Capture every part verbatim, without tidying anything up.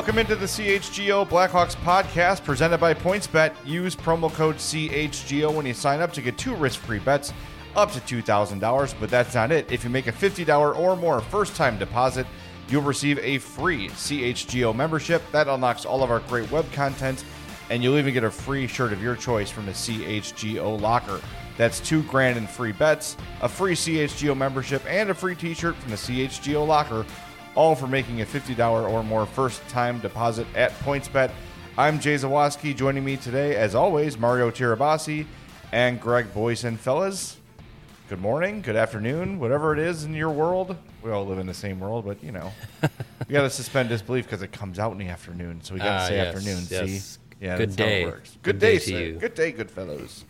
Welcome into the C H G O Blackhawks podcast presented by PointsBet. Use promo code C H G O when you sign up to get two risk-free bets up to two thousand dollars. But that's not it. If you make a fifty dollars or more first-time deposit, you'll receive a free C H G O membership. That unlocks all of our great web content, and you'll even get a free shirt of your choice from the C H G O locker. That's two grand in free bets, a free C H G O membership, and a free t-shirt from the C H G O locker, all for making a fifty dollars or more first-time deposit at PointsBet. I'm Jay Zawaski. Joining me today, as always, Mario Tirabassi and Greg Boyson. Fellas, good morning, good afternoon, whatever it is in your world. We all live in the same world, but, you know, we got to suspend disbelief because it comes out in the afternoon, so we got to uh, say yes, afternoon, yes. see? Yeah, good that's day. how it works. Good, good day, day sir. to you. Good day, good fellows.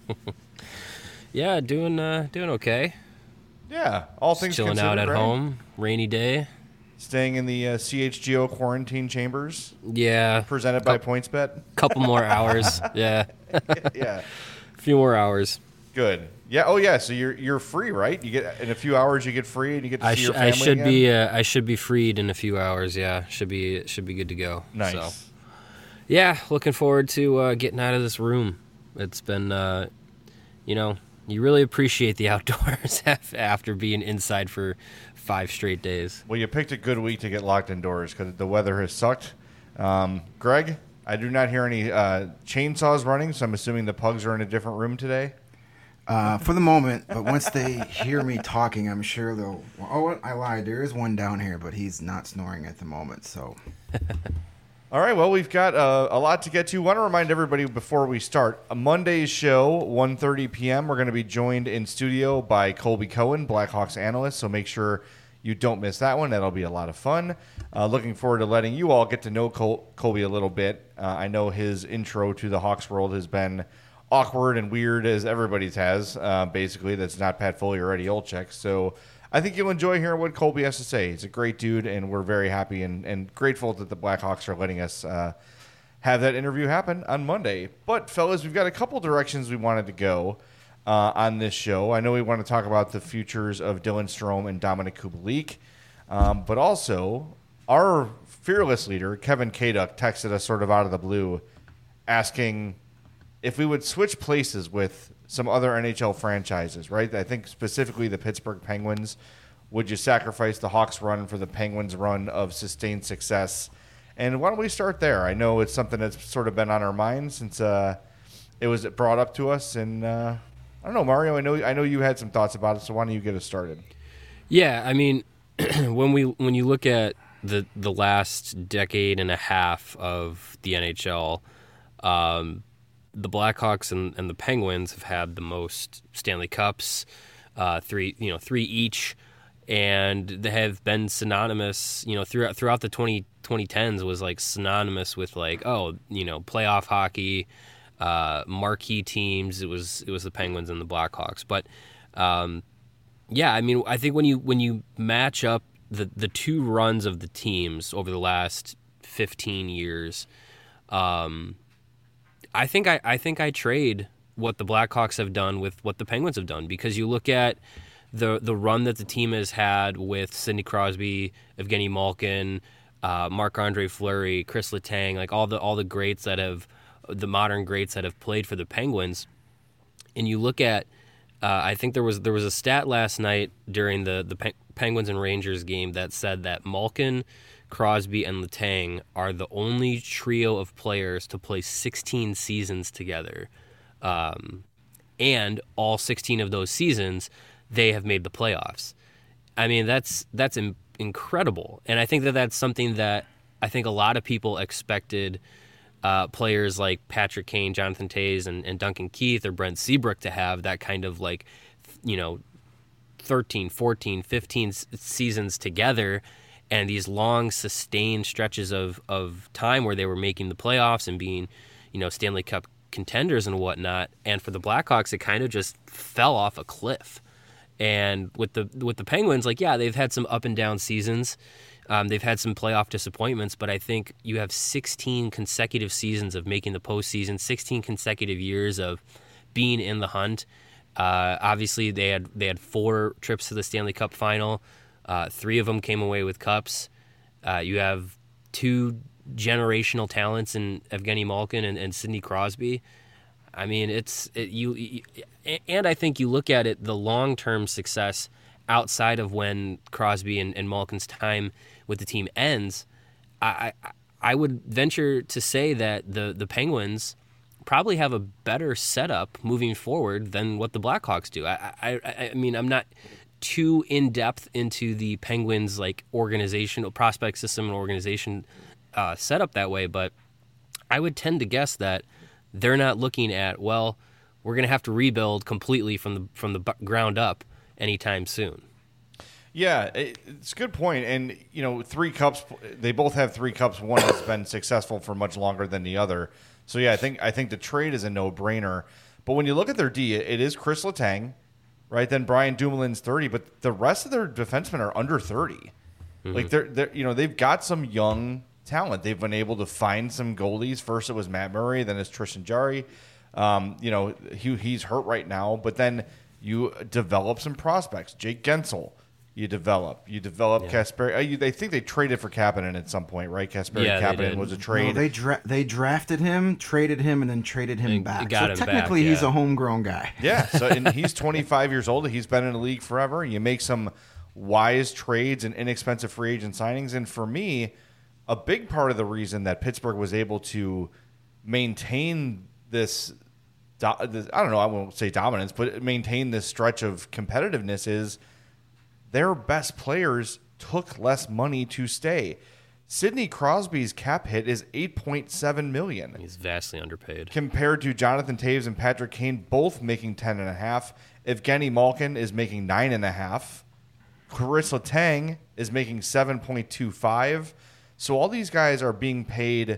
Yeah, doing uh, doing okay. Yeah, all things Just chilling considered, out at right? home, rainy day. Staying in the uh, C H G O quarantine chambers, Yeah, presented by PointsBet. couple more hours. Yeah, Yeah, a few more hours. good. Yeah. Oh, yeah. So you're you're free, right? You get in a few hours. You get free, and you get to I, see sh- your I family should again? be uh, I should be freed in a few hours. Yeah, should be should be good to go. Nice. So, yeah, looking forward to uh, getting out of this room. It's been, uh, you know, you really appreciate the outdoors after being inside for five straight days. Well, you picked a good week to get locked indoors because the weather has sucked. Um, Greg, I do not hear any uh, chainsaws running, so I'm assuming the pugs are in a different room today. Uh, for the moment, but once they hear me talking, I'm sure they'll. Oh, I lied. There is one down here, but he's not snoring at the moment. So, All right, well, we've got uh, a lot to get to. Want to remind everybody before we start, a Monday's show, one thirty p.m., we're going to be joined in studio by Colby Cohen, Blackhawks analyst, so make sure you don't miss that one. That'll be a lot of fun. Uh, looking forward to letting you all get to know Col- Colby a little bit. Uh, I know his intro to the Hawks world has been awkward and weird as everybody's has, uh, basically. That's not Pat Foley or Eddie Olczyk, so I think you'll enjoy hearing what Colby has to say. He's a great dude, and we're very happy and, and grateful that the Blackhawks are letting us uh, have that interview happen on Monday. But, fellas, we've got a couple directions we wanted to go uh, on this show. I know we want to talk about the futures of Dylan Strome and Dominic Kubalik, um, but also our fearless leader, Kevin Kaduk, texted us sort of out of the blue asking if we would switch places with some other N H L franchises, right? I think specifically the Pittsburgh Penguins. Would you sacrifice the Hawks run for the Penguins run of sustained success? And why don't we start there? I know it's something that's sort of been on our minds since uh, it was brought up to us. And uh, I don't know, Mario, I know I know you had some thoughts about it, so why don't you get us started? Yeah, I mean, when we when you look at the the last decade and a half of the N H L, um, the Blackhawks and, and the Penguins have had the most Stanley Cups, uh, three you know three each, and they have been synonymous. You know, throughout throughout the twenty tens was like synonymous with like oh you know playoff hockey, uh, marquee teams. It was it was the Penguins and the Blackhawks, but um, yeah, I mean, I think when you when you match up the the two runs of the teams over the last fifteen years. Um, I think I, I think I trade what the Blackhawks have done with what the Penguins have done, because you look at the the run that the team has had with Sidney Crosby, Evgeny Malkin, uh, Marc-Andre Fleury, Chris Letang, like all the all the greats that have the modern greats that have played for the Penguins, and you look at uh, I think there was there was a stat last night during the the Pe- Penguins and Rangers game that said that Malkin, Crosby, and Letang are the only trio of players to play sixteen seasons together. Um, and all sixteen of those seasons, they have made the playoffs. I mean, that's that's in, incredible. And I think that that's something that I think a lot of people expected uh, players like Patrick Kane, Jonathan Toews, and, and Duncan Keith or Brent Seabrook to have that kind of like, you know, thirteen, fourteen, fifteen seasons together, and these long sustained stretches of, of time where they were making the playoffs and being, you know, Stanley Cup contenders and whatnot. And for the Blackhawks, it kind of just fell off a cliff. And with the with the Penguins, like, yeah, they've had some up and down seasons. Um, they've had some playoff disappointments, but I think you have sixteen consecutive seasons of making the postseason, sixteen consecutive years of being in the hunt. Uh, obviously, they had they had four trips to the Stanley Cup final. Uh, three of them came away with cups. Uh, you have two generational talents in Evgeny Malkin and, and Sidney Crosby. I mean, it's it, you, you, and I think you look at it, the long-term success outside of when Crosby and, and Malkin's time with the team ends. I, I I would venture to say that the the Penguins probably have a better setup moving forward than what the Blackhawks do. I I, I mean, I'm not too in depth into the Penguins like organizational prospect system and organization uh, setup that way, but I would tend to guess that they're not looking at, well, we're going to have to rebuild completely from the from the ground up anytime soon. Yeah, it's a good point. And, you know, three cups, they both have three cups. One has been successful for much longer than the other. So, yeah, I think I think the trade is a no-brainer. But when you look at their D, it is Chris Letang, right? Then Brian Dumoulin's thirty, but the rest of their defensemen are under thirty. Mm-hmm. Like, they're, they're, you know, they've got some young talent. They've been able to find some goalies. First it was Matt Murray, then it's Tristan Jarry. Um, you know, he, he's hurt right now. But then you develop some prospects. Jake Gensel. You develop. You develop yeah. Kasper. Uh, they think they traded for Kapanen at some point, right? Kasper yeah, Kapanen was a trade. No, they dra- they drafted him, traded him, and then traded him and back. Got so him technically, back, yeah. he's a homegrown guy. Yeah. So and he's twenty-five years old. He's been in the league forever. You make some wise trades and inexpensive free agent signings. And for me, a big part of the reason that Pittsburgh was able to maintain this, I don't know, I won't say dominance, but maintain this stretch of competitiveness is their best players took less money to stay. Sidney Crosby's cap hit is eight point seven million dollars. He's vastly underpaid. Compared to Jonathan Toews and Patrick Kane, both making ten and a half. Evgeny Malkin is making nine and a half. Chris Letang is making seven point two five. So all these guys are being paid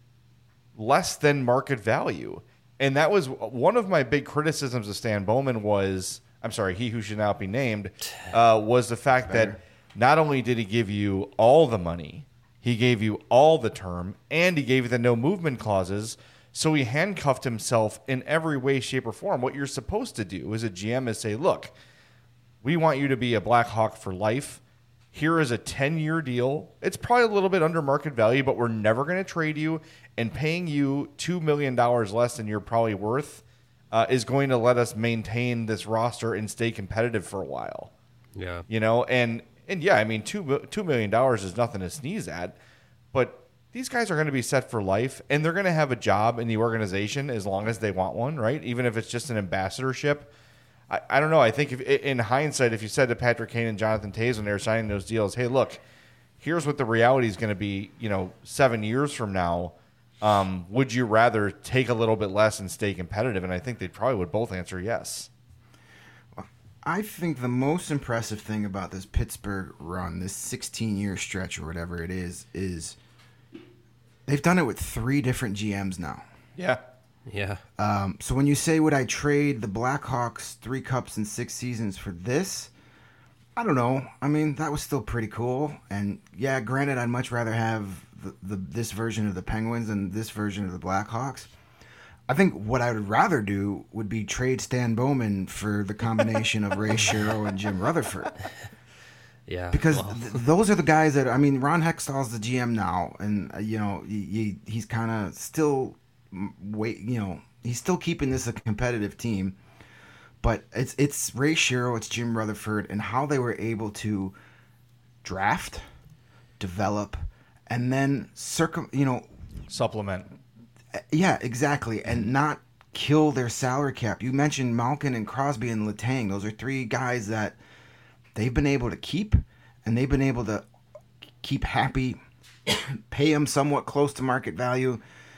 less than market value. And that was one of my big criticisms of Stan Bowman was, I'm sorry, he who should not be named, uh, was the fact that not only did he give you all the money, he gave you all the term, and he gave you the no movement clauses, so he handcuffed himself in every way, shape, or form. What you're supposed to do as a G M is say, look, we want you to be a Blackhawk for life. Here is a ten-year deal. It's probably a little bit under market value, but we're never going to trade you, and paying you two million dollars less than you're probably worth Uh, is going to let us maintain this roster and stay competitive for a while. Yeah. You know, and, and yeah, I mean, two, $2 million is nothing to sneeze at, but these guys are going to be set for life, and they're going to have a job in the organization as long as they want one, right? Even if it's just an ambassadorship. I, I don't know. I think if in hindsight, if you said to Patrick Kane and Jonathan Toews when they were signing those deals, hey, look, here's what the reality is going to be, you know, seven years from now, Um, would you rather take a little bit less and stay competitive? And I think they probably would both answer yes. I think the most impressive thing about this Pittsburgh run, this sixteen-year stretch or whatever it is, is they've done it with three different G Ms now. Yeah. Yeah. Um, so when you say, would I trade the Blackhawks three cups in six seasons for this? I don't know. I mean, that was still pretty cool. And, yeah, granted, I'd much rather have the, the this version of the Penguins than this version of the Blackhawks. I think what I would rather do would be trade Stan Bowman for the combination of Ray Shero and Jim Rutherford. Yeah. Because well. th- those are the guys that, I mean, Ron Hextall's the G M now. And, uh, you know, he, he, he's kind of still, wait, you know, he's still keeping this a competitive team. But it's it's Ray Shero, it's Jim Rutherford, and how they were able to draft, develop, and then circum, you know, supplement. Yeah, exactly, and not kill their salary cap. You mentioned Malkin and Crosby and Letang; those are three guys that they've been able to keep, and they've been able to keep happy, pay them somewhat close to market value,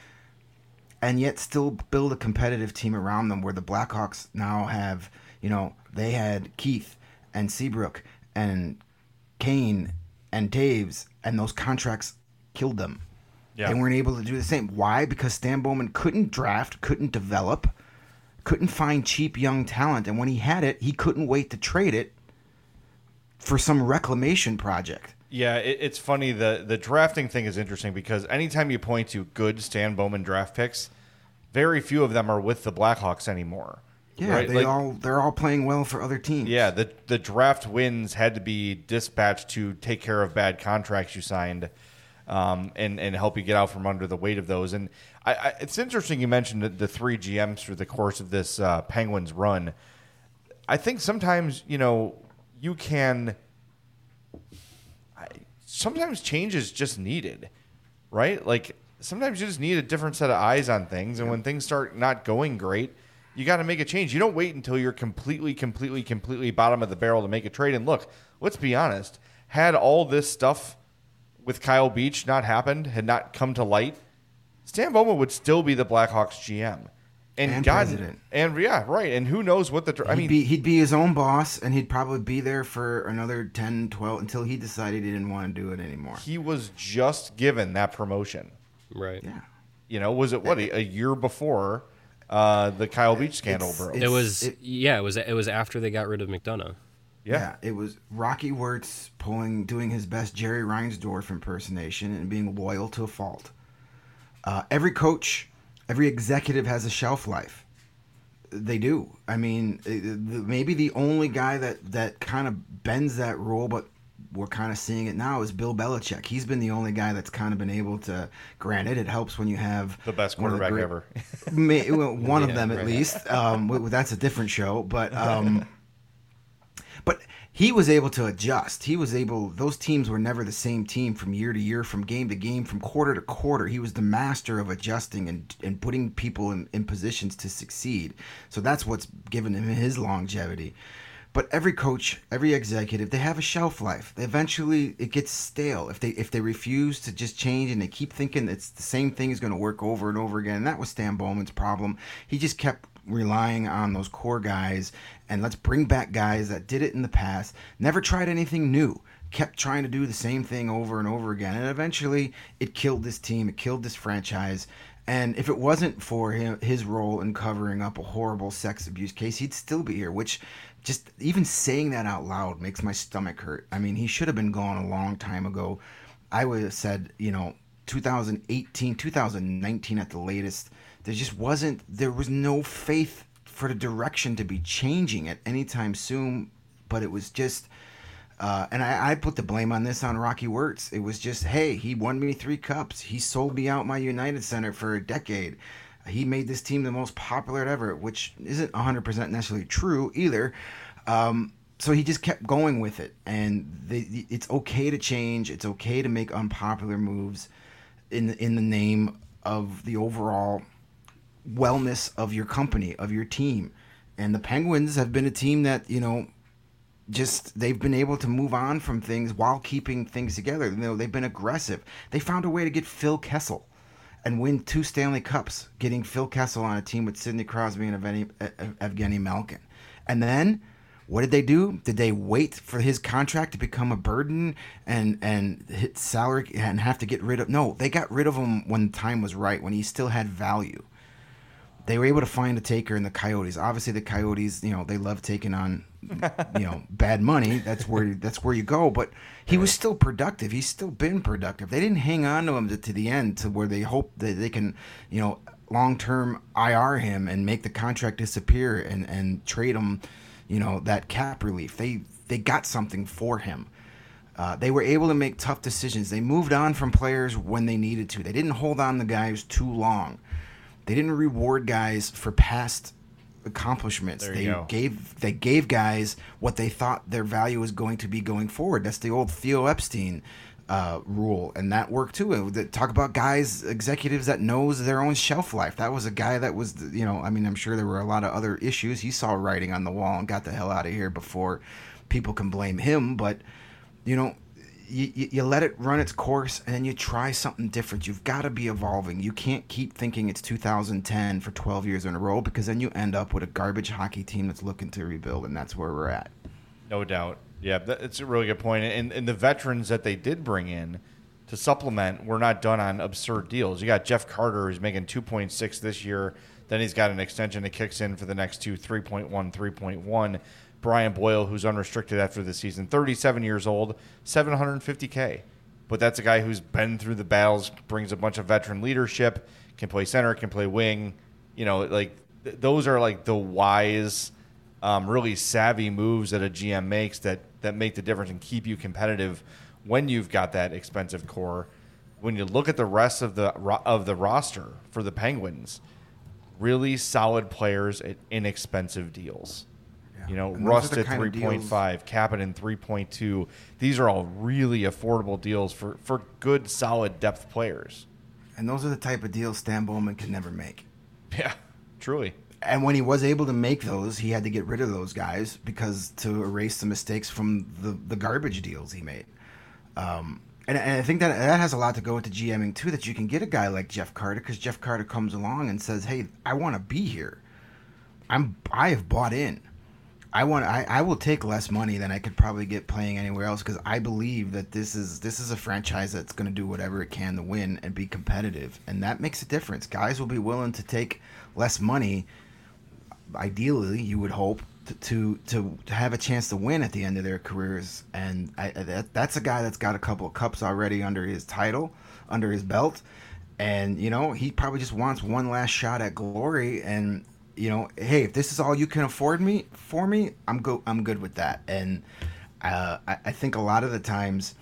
and yet still build a competitive team around them where the Blackhawks now have, you know, they had Keith and Seabrook and Kane and Toews, and those contracts killed them. Yeah. They weren't able to do the same. Why? Because Stan Bowman couldn't draft, couldn't develop, couldn't find cheap young talent, and when he had it, he couldn't wait to trade it for some reclamation project. Yeah, it, it's funny. The the drafting thing is interesting because anytime you point to good Stan Bowman draft picks, very few of them are with the Blackhawks anymore. Yeah, right? they like, all they're all playing well for other teams. Yeah, the the draft wins had to be dispatched to take care of bad contracts you signed. um, and and help you get out from under the weight of those. And I, I, it's interesting you mentioned the, the three G Ms through the course of this uh, Penguins run. I think sometimes, you know, you can. I, sometimes change is just needed, right? Like sometimes you just need a different set of eyes on things, and when things start not going great, you got to make a change. You don't wait until you're completely, completely, completely bottom of the barrel to make a trade. And look, let's be honest. Had all this stuff with Kyle Beach not happened, had not come to light, Stan Bowman would still be the Blackhawks G M. And, and God, president. And yeah, right. And who knows what the... I he'd mean, be, he'd be his own boss, and he'd probably be there for another ten, twelve, until he decided he didn't want to do it anymore. He was just given that promotion. Right. Yeah. You know, was it, what, a, a year before uh, the Kyle Beach scandal It's- broke? It was it, yeah. It was it was after they got rid of McDonough. Yeah. Yeah, it was Rocky Wirtz pulling, doing his best Jerry Reinsdorf impersonation and being loyal to a fault. Uh, every coach, every executive has a shelf life. They do. I mean, it- the- maybe the only guy that, that kind of bends that rule, but we're kind of seeing it now, is Bill Belichick. He's been the only guy that's kind of been able to. Granted, it helps when you have The best one of the quarterback great- ever. May, well, one of Yeah, them at right. least. Um, w- that's a different show, but um, but he was able to adjust. He was able. Those teams were never the same team from year to year, from game to game, from quarter to quarter. He was the master of adjusting and and putting people in, in positions to succeed. So that's what's given him his longevity. But every coach, every executive, they have a shelf life. Eventually, it gets stale if they if they refuse to just change and they keep thinking it's the same thing is going to work over and over again. And that was Stan Bowman's problem. He just kept relying on those core guys, and let's bring back guys that did it in the past. Never tried anything new. Kept trying to do the same thing over and over again, and eventually, it killed this team. It killed this franchise. And if it wasn't for him, his role in covering up a horrible sex abuse case, he'd still be here, which just even saying that out loud makes my stomach hurt. I mean, he should have been gone a long time ago. I would have said, you know, two thousand eighteen, two thousand nineteen at the latest. There just wasn't, there was no faith for the direction to be changing it anytime soon. But it was just, Uh, and I, I put the blame on this on Rocky Wirtz. It was just, hey, he won me three cups. He sold me out my United Center for a decade. He made this team the most popular ever, which isn't one hundred percent necessarily true either. Um, so he just kept going with it. And the, it's okay to change. It's okay to make unpopular moves in the, in the name of the overall wellness of your company, of your team. And the Penguins have been a team that, you know, just they've been able to move on from things while keeping things together. You know, they've been aggressive. They found a way to get Phil Kessel and win two Stanley Cups, getting Phil Kessel on a team with Sidney Crosby and Evgeny, Evgeny Malkin. And then what did they do? Did they wait for his contract to become a burden and and hit salary and have to get rid of? No, they got rid of him when the time was right, when he still had value. They were able to find a taker in the Coyotes. Obviously, the Coyotes, you know, they love taking on, you know, bad money. That's where that's where you go. But he was still productive. He's still been productive. They didn't hang on to him to, to the end, to where they hope that they can, you know, long term I R him and make the contract disappear and, and trade him, you know, that cap relief. They they got something for him. Uh, they were able to make tough decisions. They moved on from players when they needed to. They didn't hold on to guys too long. They didn't reward guys for past accomplishments. There you They go. gave they gave guys what they thought their value was going to be going forward. That's the old Theo Epstein uh, rule, and that worked too. They talk about guys, executives that knows their own shelf life. That was a guy that was, you know, I mean, I'm sure there were a lot of other issues. He saw writing on the wall and got the hell out of here before people can blame him. But you know. You, you, you let it run its course, and then you try something different. You've got to be evolving. You can't keep thinking it's two thousand ten for twelve years in a row, because then you end up with a garbage hockey team that's looking to rebuild, and that's where we're at. No doubt. Yeah, that's a really good point. And, and the veterans that they did bring in to supplement were not done on absurd deals. You got Jeff Carter, who's making two point six this year. Then he's got an extension that kicks in for the next two, three point one, three point one. Brian Boyle, who's unrestricted after the season, thirty-seven years old, seven hundred fifty K. But that's a guy who's been through the battles, brings a bunch of veteran leadership, can play center, can play wing. You know, like th- those are like the wise, um, really savvy moves that a G M makes that that make the difference and keep you competitive when you've got that expensive core. when you look at the rest of the ro- of the roster for the Penguins, really solid players at inexpensive deals. Yeah. You know, And those are Rust the at kind of three point five, Kapanen three point two. These are all really affordable deals for, for good, solid depth players. And those are the type of deals Stan Bowman can never make. Yeah, truly. And when he was able to make those, he had to get rid of those guys because to erase the mistakes from the, the garbage deals he made. Um, and, and I think that that has a lot to go with the GMing too, that you can get a guy like Jeff Carter because Jeff Carter comes along and says, hey, I want to be here. I'm, I have bought in. I want. I, I will take less money than I could probably get playing anywhere else because I believe that this is this is a franchise that's going to do whatever it can to win and be competitive, and that makes a difference. Guys will be willing to take less money. Ideally, you would hope to to, to, to have a chance to win at the end of their careers, and I, that that's a guy that's got a couple of cups already under his title, under his belt, and you know he probably just wants one last shot at glory and. You know, hey, if this is all you can afford me for me, I'm go I'm good with that. And uh, I, I think a lot of the times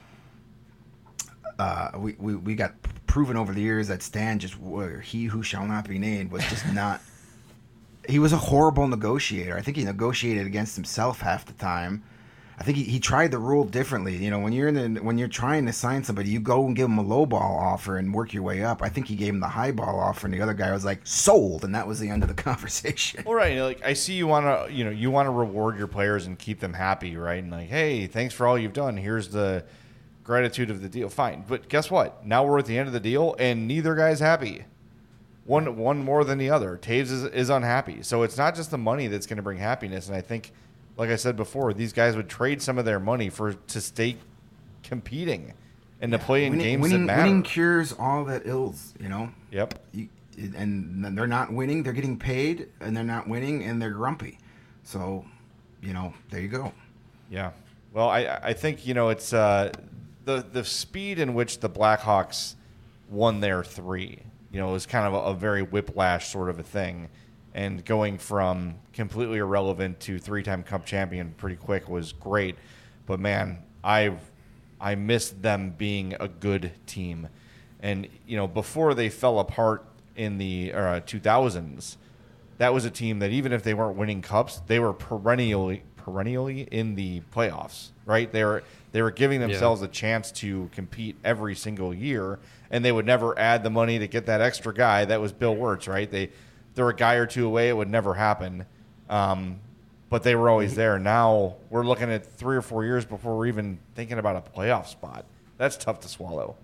uh, we, we we got proven over the years that Stan just or he who shall not be named was just not. He was a horrible negotiator. I think he negotiated against himself half the time. I think he, he tried the rule differently. You know, when you're in the, when you're trying to sign somebody, you go and give them a low ball offer and work your way up. I think he gave him the high ball offer, and the other guy was like sold, and that was the end of the conversation. Well, right. Like I see you want to, you know, you want to reward your players and keep them happy, right? And like, hey, thanks for all you've done. Here's the gratitude of the deal. Fine, but guess what? Now we're at the end of the deal, and neither guy's happy. One one more than the other. Taves is, is unhappy. So it's not just the money that's going to bring happiness. And I think. Like I said before, these guys would trade some of their money for to stay competing and to play in winning, games winning, that matter. Winning cures all that ills, you know? Yep. You, and they're not winning, they're getting paid, and they're not winning, and they're grumpy. So, you know, there you go. Yeah. Well, I I think, you know, it's uh, the, the speed in which the Blackhawks won their three, you know, it was kind of a, a very whiplash sort of a thing. And going from completely irrelevant to three-time Cup champion pretty quick was great. But, man, I I missed them being a good team. And, you know, before they fell apart in the uh, two thousands, that was a team that even if they weren't winning cups, they were perennially perennially in the playoffs, right? They were, they were giving themselves yeah. a chance to compete every single year, and they would never add the money to get that extra guy. That was Bill Wirtz, right? They They're a guy or two away. It would never happen. Um, but they were always there. Now we're looking at three or four years before we're even thinking about a playoff spot. That's tough to swallow.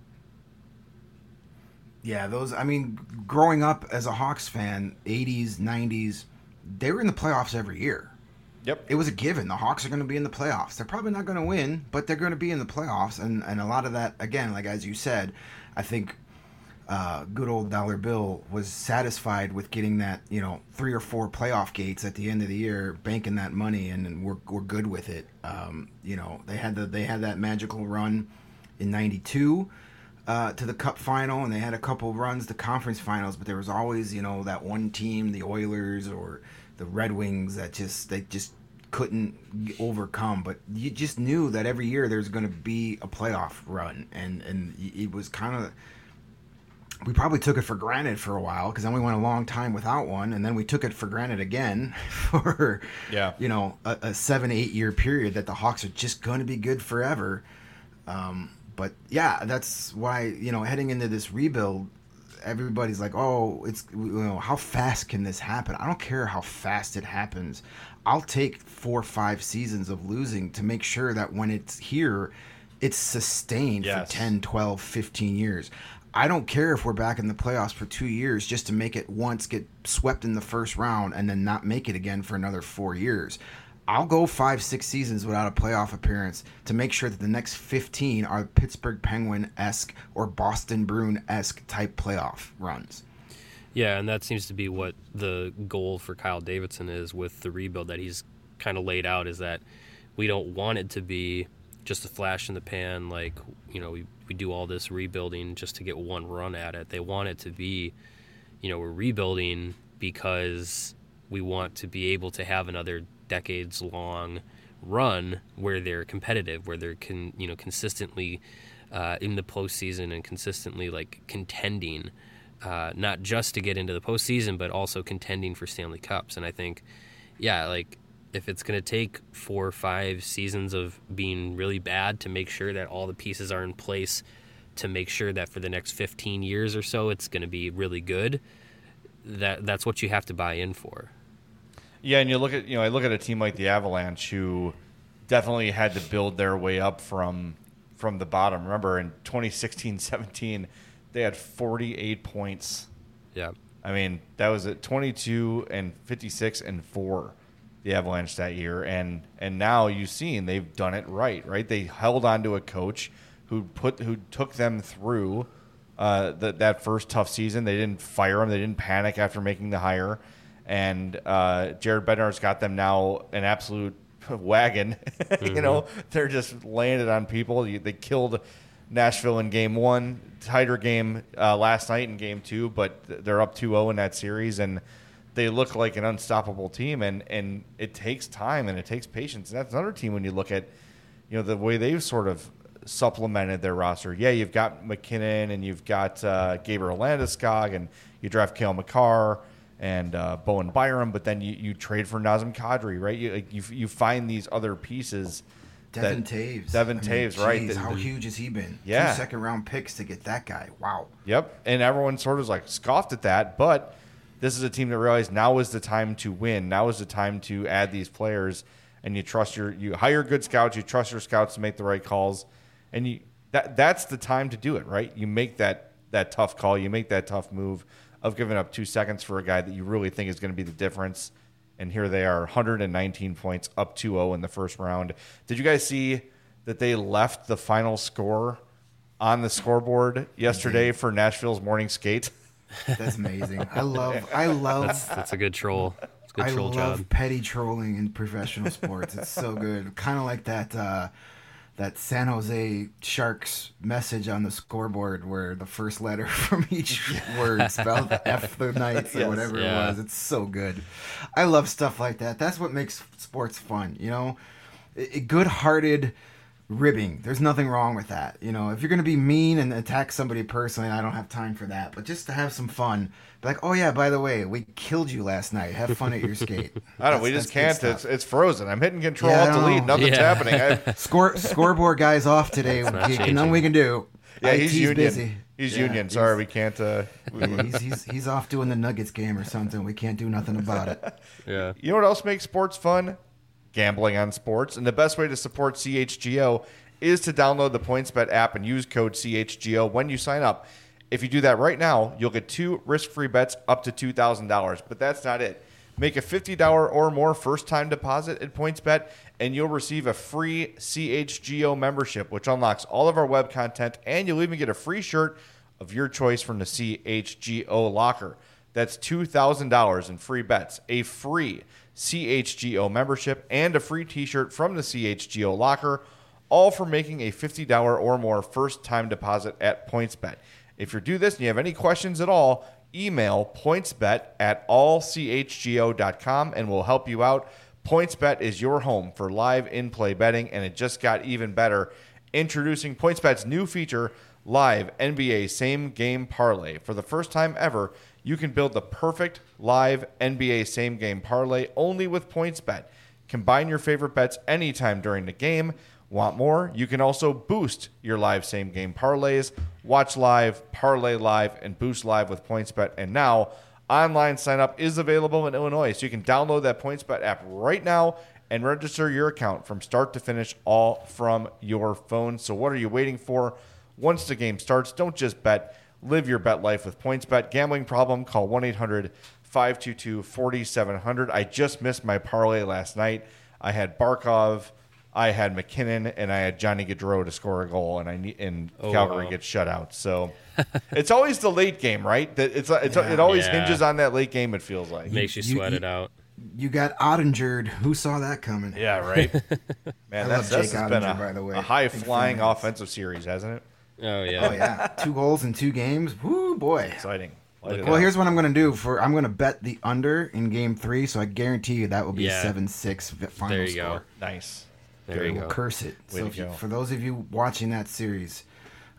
Yeah, those, I mean, growing up as a Hawks fan, eighties, nineties, they were in the playoffs every year. Yep. It was a given. The Hawks are going to be in the playoffs. They're probably not going to win, but they're going to be in the playoffs. And, and a lot of that, again, like as you said, I think uh, good old Dollar Bill was satisfied with getting that, you know, three or four playoff gates at the end of the year, banking that money, and, and we're we're good with it. Um, you know, they had the they had that magical run in ninety-two uh, to the Cup final, and they had a couple runs to conference finals, but there was always, you know, that one team, the Oilers or the Red Wings, that just they just couldn't overcome. But you just knew that every year there's going to be a playoff run, and and it was kind of, we probably took it for granted for a while because then we went a long time without one, and then we took it for granted again for yeah you know a, a seven eight year period that the Hawks are just going to be good forever. Um, but yeah, that's why, you know, heading into this rebuild, everybody's like, oh, it's, you know, how fast can this happen? I don't care how fast it happens. I'll take four or five seasons of losing to make sure that when it's here, it's sustained yes. for ten, twelve, fifteen years. I don't care if we're back in the playoffs for two years just to make it once, get swept in the first round, and then not make it again for another four years. I'll go five, six seasons without a playoff appearance to make sure that the next fifteen are Pittsburgh Penguin-esque or Boston Bruin-esque type playoff runs. Yeah, and that seems to be what the goal for Kyle Davidson is with the rebuild that he's kind of laid out, is that we don't want it to be just a flash in the pan, like, you know, we, we do all this rebuilding just to get one run at it. They want it to be, you know, we're rebuilding because we want to be able to have another decades-long run where they're competitive, where they're con, you know consistently uh, in the postseason and consistently like contending, uh, not just to get into the postseason, but also contending for Stanley Cups. And I think, yeah, like if it's going to take four or five seasons of being really bad to make sure that all the pieces are in place to make sure that for the next fifteen years or so it's going to be really good, that that's what you have to buy in for. Yeah, and you look at you know I look at a team like the Avalanche who definitely had to build their way up from from the bottom. Remember in twenty sixteen seventeen they had forty-eight points. Yeah. I mean, that was at twenty-two and fifty-six and four, the Avalanche that year, and and now you've seen they've done it right, right? They held on to a coach who put who took them through uh, the, that first tough season. They didn't fire him. They didn't panic after making the hire, and uh, Jared Bednar's got them now an absolute wagon. Mm-hmm. You know, they're just landed on people. They killed Nashville in game one, tighter game uh, last night in game two, but they're up two oh in that series, and they look like an unstoppable team, and, and it takes time and it takes patience. And that's another team when you look at, you know, the way they've sort of supplemented their roster. Yeah, you've got McKinnon and you've got uh, Gabriel Landeskog, and you draft Cale Makar and uh, Bowen Byram, but then you, you trade for Nazem Kadri, right? You, like, you you find these other pieces. Devin that, Taves. Devin I mean, Taves, right? geez, The- how the- huge has he been? Yeah. Two second round picks to get that guy. Wow. Yep, and everyone sort of like scoffed at that, but this is a team that realized now is the time to win. Now is the time to add these players, and you trust your you hire good scouts. You trust your scouts to make the right calls, and you that that's the time to do it, right? You make that that tough call. You make that tough move of giving up two seconds for a guy that you really think is going to be the difference. And here they are, one hundred nineteen points, up two oh in the first round. Did you guys see that they left the final score on the scoreboard yesterday for Nashville's morning skate? That's amazing. I love I love That's that's a good troll. It's a good I troll love job. petty trolling in professional sports. It's so good. Kind of like that uh, that San Jose Sharks message on the scoreboard where the first letter from each word spelled F the Knights or Yes. whatever Yeah. it was. It's so good. I love stuff like that. That's what makes sports fun, you know? I- good-hearted ribbing. There's nothing wrong with that. You know, if you're going to be mean and attack somebody personally, I don't have time for that. But just to have some fun. Be like, oh, yeah, by the way, we killed you last night. Have fun at your skate. I don't know. We That's- just can't. that's good It's, stuff. it's frozen. I'm hitting control, Yeah, I alt don't delete. know. Nothing's Yeah. happening. I, Score scoreboard guy's off today. not He- changing. Nothing we can do. yeah, he's IT's union. busy. He's Yeah, union. he's- Sorry, we can't. Uh, yeah, he's, he's, he's off doing the Nuggets game or something. We can't do nothing about it. Yeah. You know what else makes sports fun? Gambling on sports. And the best way to support C H G O is to download the PointsBet app and use code C H G O when you sign up. If you do that right now, you'll get two risk-free bets up to two thousand dollars. But that's not it. Make a fifty dollars or more first-time deposit at PointsBet, and you'll receive a free C H G O membership, which unlocks all of our web content, and you'll even get a free shirt of your choice from the C H G O locker. That's two thousand dollars in free bets, a free C H G O membership, and a free t-shirt from the C H G O locker, all for making a fifty dollars or more first-time deposit at PointsBet. If you do this and you have any questions at all, email pointsbet at all c h g o dot com and we'll help you out. PointsBet is your home for live in-play betting, and it just got even better. Introducing PointsBet's new feature, Live N B A Same Game Parlay. For the first time ever, you can build the perfect live N B A Same Game Parlay only with PointsBet. Combine your favorite bets anytime during the game. Want more? You can also boost your live same game parlays. Watch live, parlay live, and boost live with PointsBet. And now, online sign up is available in Illinois, so you can download that PointsBet app right now and register your account from start to finish, all from your phone. So what are you waiting for? Once the game starts, don't just bet. Live your bet life with PointsBet. Gambling problem? Call one eight hundred five two two four seven zero zero. I just missed my parlay last night. I had Barkov, I had McKinnon, and I had Johnny Gaudreau to score a goal, and I need, and Oh, Calgary wow. gets shut out. So it's always the late game, right? That it's, it's Yeah. it always Yeah. hinges on that late game. It feels like. Makes you You- sweat you- it out. You got Ottingered. Who saw that coming? Yeah, right. Man, I that's, love this Jake has been Ottinger, a, by the way. a high Big flying fan. offensive series, hasn't it? Oh yeah. Oh yeah, two goals in two games. Woo boy. Exciting. Light it Well, up. here's what I'm going to do. For I'm going to bet the under in game three, so I guarantee you that will be Yeah. seven six final There you go. score. nice. There you We'll go. curse it. Way so to if you, go. for those of you watching that series,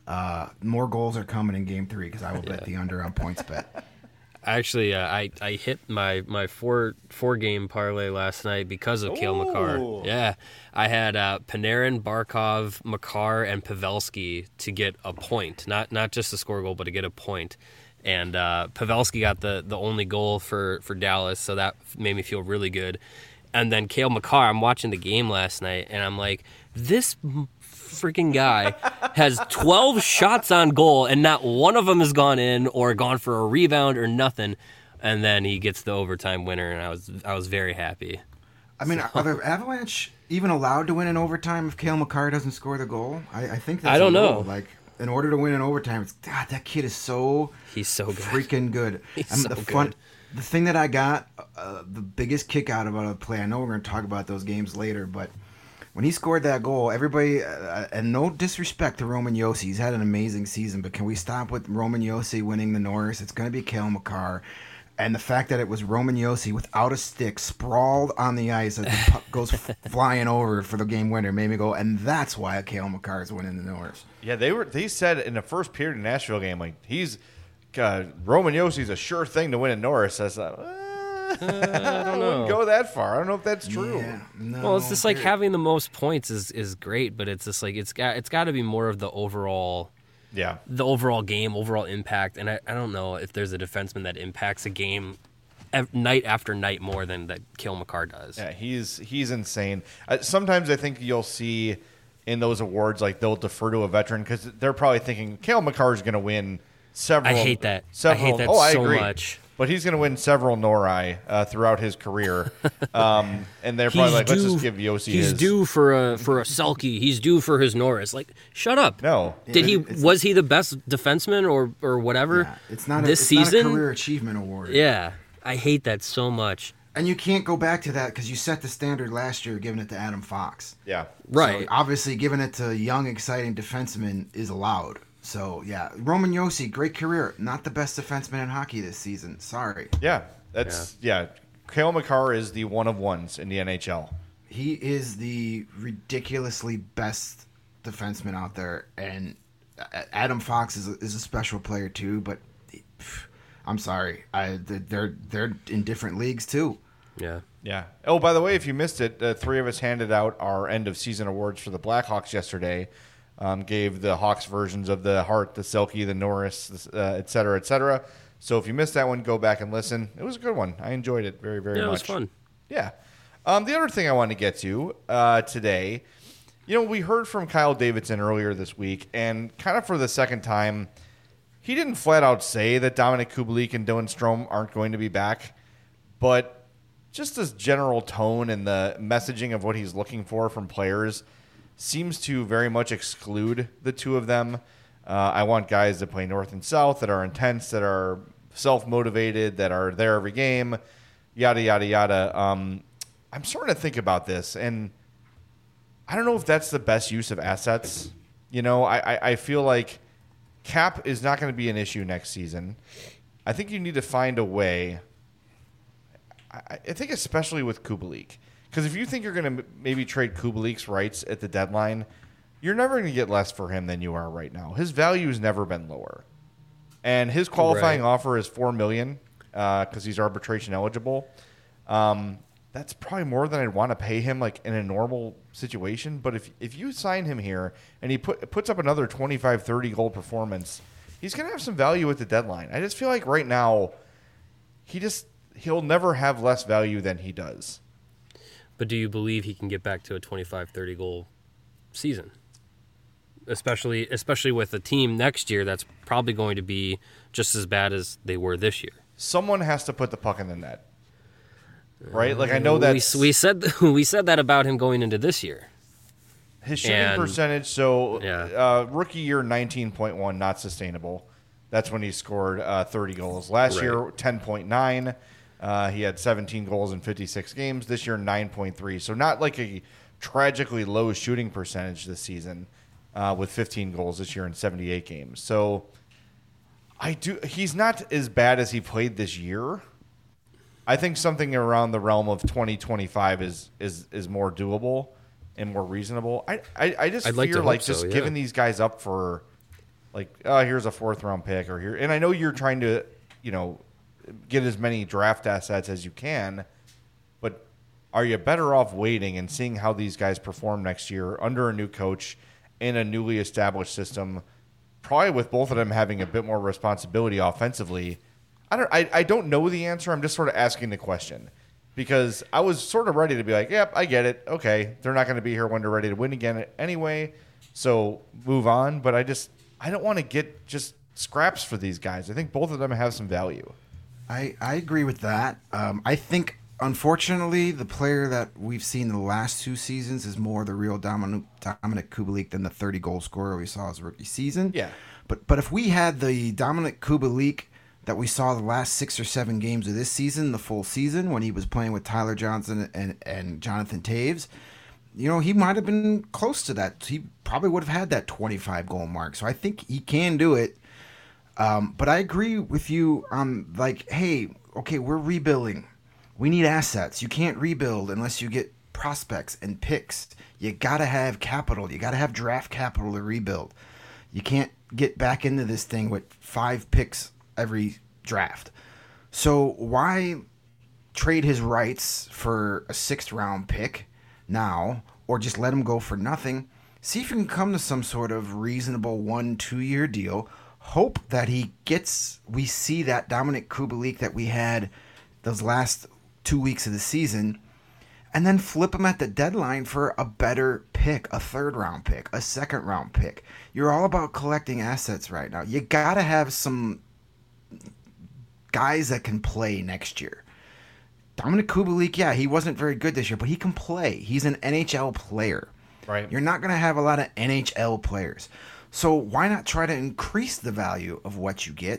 Uh, more goals are coming in game three because I will bet Yeah. the under on points bet. Actually, uh, I I hit my my four four game parlay last night because of Cale Makar. Ooh. Yeah, I had uh, Panarin, Barkov, Makar, and Pavelski to get a point, not not just to score a goal, but to get a point. And uh, Pavelski got the, the only goal for, for Dallas, so that made me feel really good. And then Cale Makar, I'm watching the game last night, and I'm like, this freaking guy has twelve shots on goal, and not one of them has gone in or gone for a rebound or nothing. And then he gets the overtime winner, and I was I was very happy. I mean, are the Avalanche even allowed to win in overtime if Cale Makar doesn't score the goal? I, I think that's I don't a know. rule. Like, in order to win in overtime, it's, God, that kid is so He's so good. freaking good. He's and so the fun, good. the thing that I got, uh, the biggest kick out of a play. I know we're going to talk about those games later, but when he scored that goal, everybody, uh, and no disrespect to Roman Josi, he's had an amazing season, but can we stop with Roman Josi winning the Norris? It's going to be Cale Makar. And the fact that it was Roman Josi without a stick, sprawled on the ice as the puck goes f- flying over for the game winner, made me go, and that's why Cale Makar is winning the Norris. Yeah, they were. They said in the first period of the Nashville game, like he's uh, Roman Yossi's a sure thing to win at Norris. I was like, uh, I don't know. go that far. I don't know if that's true. Yeah, no, Well, it's just like there- having the most points is, is great, but it's just like it's got it's got to be more of the overall Yeah, the overall game, overall impact. And I, I don't know if there's a defenseman that impacts a game ev- night after night more than that Cale Makar does. yeah, he's he's insane. Uh, sometimes I think you'll see in those awards like they'll defer to a veteran because they're probably thinking Cale Makar is going to win several. I hate that. I Several, hate that oh, I so agree. much. But he's going to win several Nori uh, throughout his career, um, and they're probably like, let's just give Yossi He's his. due for a for a Selke. He's due for his Norris. Like, shut up. No, Did he? It's- Was he the best defenseman or or whatever? Yeah, it's not a, this it's season. not a career achievement award. Yeah, I hate that so much. And you can't go back to that because you set the standard last year giving it to Adam Fox. yeah, Right. So obviously, giving it to young, exciting defensemen is allowed. So, yeah. Roman Josi, great career. Not the best defenseman in hockey this season. Sorry. yeah. That's yeah. Cale Makar is the one of ones in the N H L. He is the ridiculously best defenseman out there. And A- Adam Fox is a, is a special player, too. But he- pff, I'm sorry. I, they're, they're in different leagues, too. Yeah. Yeah. Oh, by the way, if you missed it, the three of us handed out our end of season awards for the Blackhawks yesterday. Um, gave the Hawks versions of the Hart, the Selke, the Norris, uh, et cetera, et cetera. So if you missed that one, go back and listen. It was a good one. I enjoyed it very, very Yeah, it much. was fun. Yeah. Um, the other thing I wanted to get to uh, today, you know, we heard from Kyle Davidson earlier this week, and kind of for the second time, he didn't flat out say that Dominic Kubalik and Dylan Strome aren't going to be back, but just his general tone and the messaging of what he's looking for from players seems to very much exclude the two of them. Uh, I want guys that play north and south, that are intense, that are self-motivated, that are there every game, yada, yada, yada. Um, I'm starting to think about this, and I don't know if that's the best use of assets. You know, I, I, I feel like cap is not going to be an issue next season. I think you need to find a way. I, I think especially with Kubalik. Because if you think you're going to maybe trade Kubalik's rights at the deadline, you're never going to get less for him than you are right now. His value has never been lower. And his qualifying Right. offer is four million dollars because he's arbitration eligible. Um, that's probably more than I'd want to pay him like in a normal situation. But if if you sign him here and he put, puts up another twenty-five, thirty goal performance, he's going to have some value at the deadline. I just feel like right now he just he'll never have less value than he does. But do you believe he can get back to a twenty-five, thirty goal season? Especially especially with a team next year that's probably going to be just as bad as they were this year. Someone has to put the puck in the net. Right? Like I know that we, we said we said that about him going into this year. his shooting and- percentage, so Yeah. uh, rookie year nineteen point one, not sustainable. That's when he scored uh, thirty goals. Last Right. year, ten point nine. Uh, he had seventeen goals in fifty-six games. This year, nine point three. So not like a tragically low shooting percentage this season uh, with fifteen goals this year in seventy-eight games. So I do. He's not as bad as he played this year. I think something around the realm of twenty twenty-five is is is more doable and more reasonable. I I, I just I'd like fear to hope like so, just yeah. giving these guys up for like, oh, here's a fourth round pick or here. And I know you're trying to, you know, get as many draft assets as you can, but are you better off waiting and seeing how these guys perform next year under a new coach in a newly established system, probably with both of them having a bit more responsibility offensively? I don't, I, I don't know the answer. I'm just sort of asking the question because I was sort of ready to be like, yep, I get it. Okay, they're not going to be here when they're ready to win again anyway, so move on. But I just, I don't want to get just scraps for these guys. I think both of them have some value. I, I agree with that. Um, I think, unfortunately, the player that we've seen the last two seasons is more the real Dominic, Dominic Kubalik than the thirty-goal scorer we saw his rookie season. Yeah. But but if we had the Dominic Kubalik that we saw the last six or seven games of this season, the full season, when he was playing with Tyler Johnson and, and Jonathan Taves, you know, he might have been close to that. He probably would have had that twenty-five goal mark. So I think he can do it. Um, but I agree with you on, like, hey, okay, we're rebuilding. We need assets. You can't rebuild unless you get prospects and picks. You got to have capital. You got to have draft capital to rebuild. You can't get back into this thing with five picks every draft. So why trade his rights for a sixth round pick now, or just let him go for nothing? See if you can come to some sort of reasonable one, two year deal. Hope that he gets, we see that Dominic Kubalik that we had those last two weeks of the season, and then flip him at the deadline for a better pick, a third round pick, a second round pick. You're all about collecting assets right now. You got to have some guys that can play next year. Dominic Kubalik, yeah, he wasn't very good this year, but he can play. He's an N H L player. Right. You're not going to have a lot of N H L players. So why not try to increase the value of what you get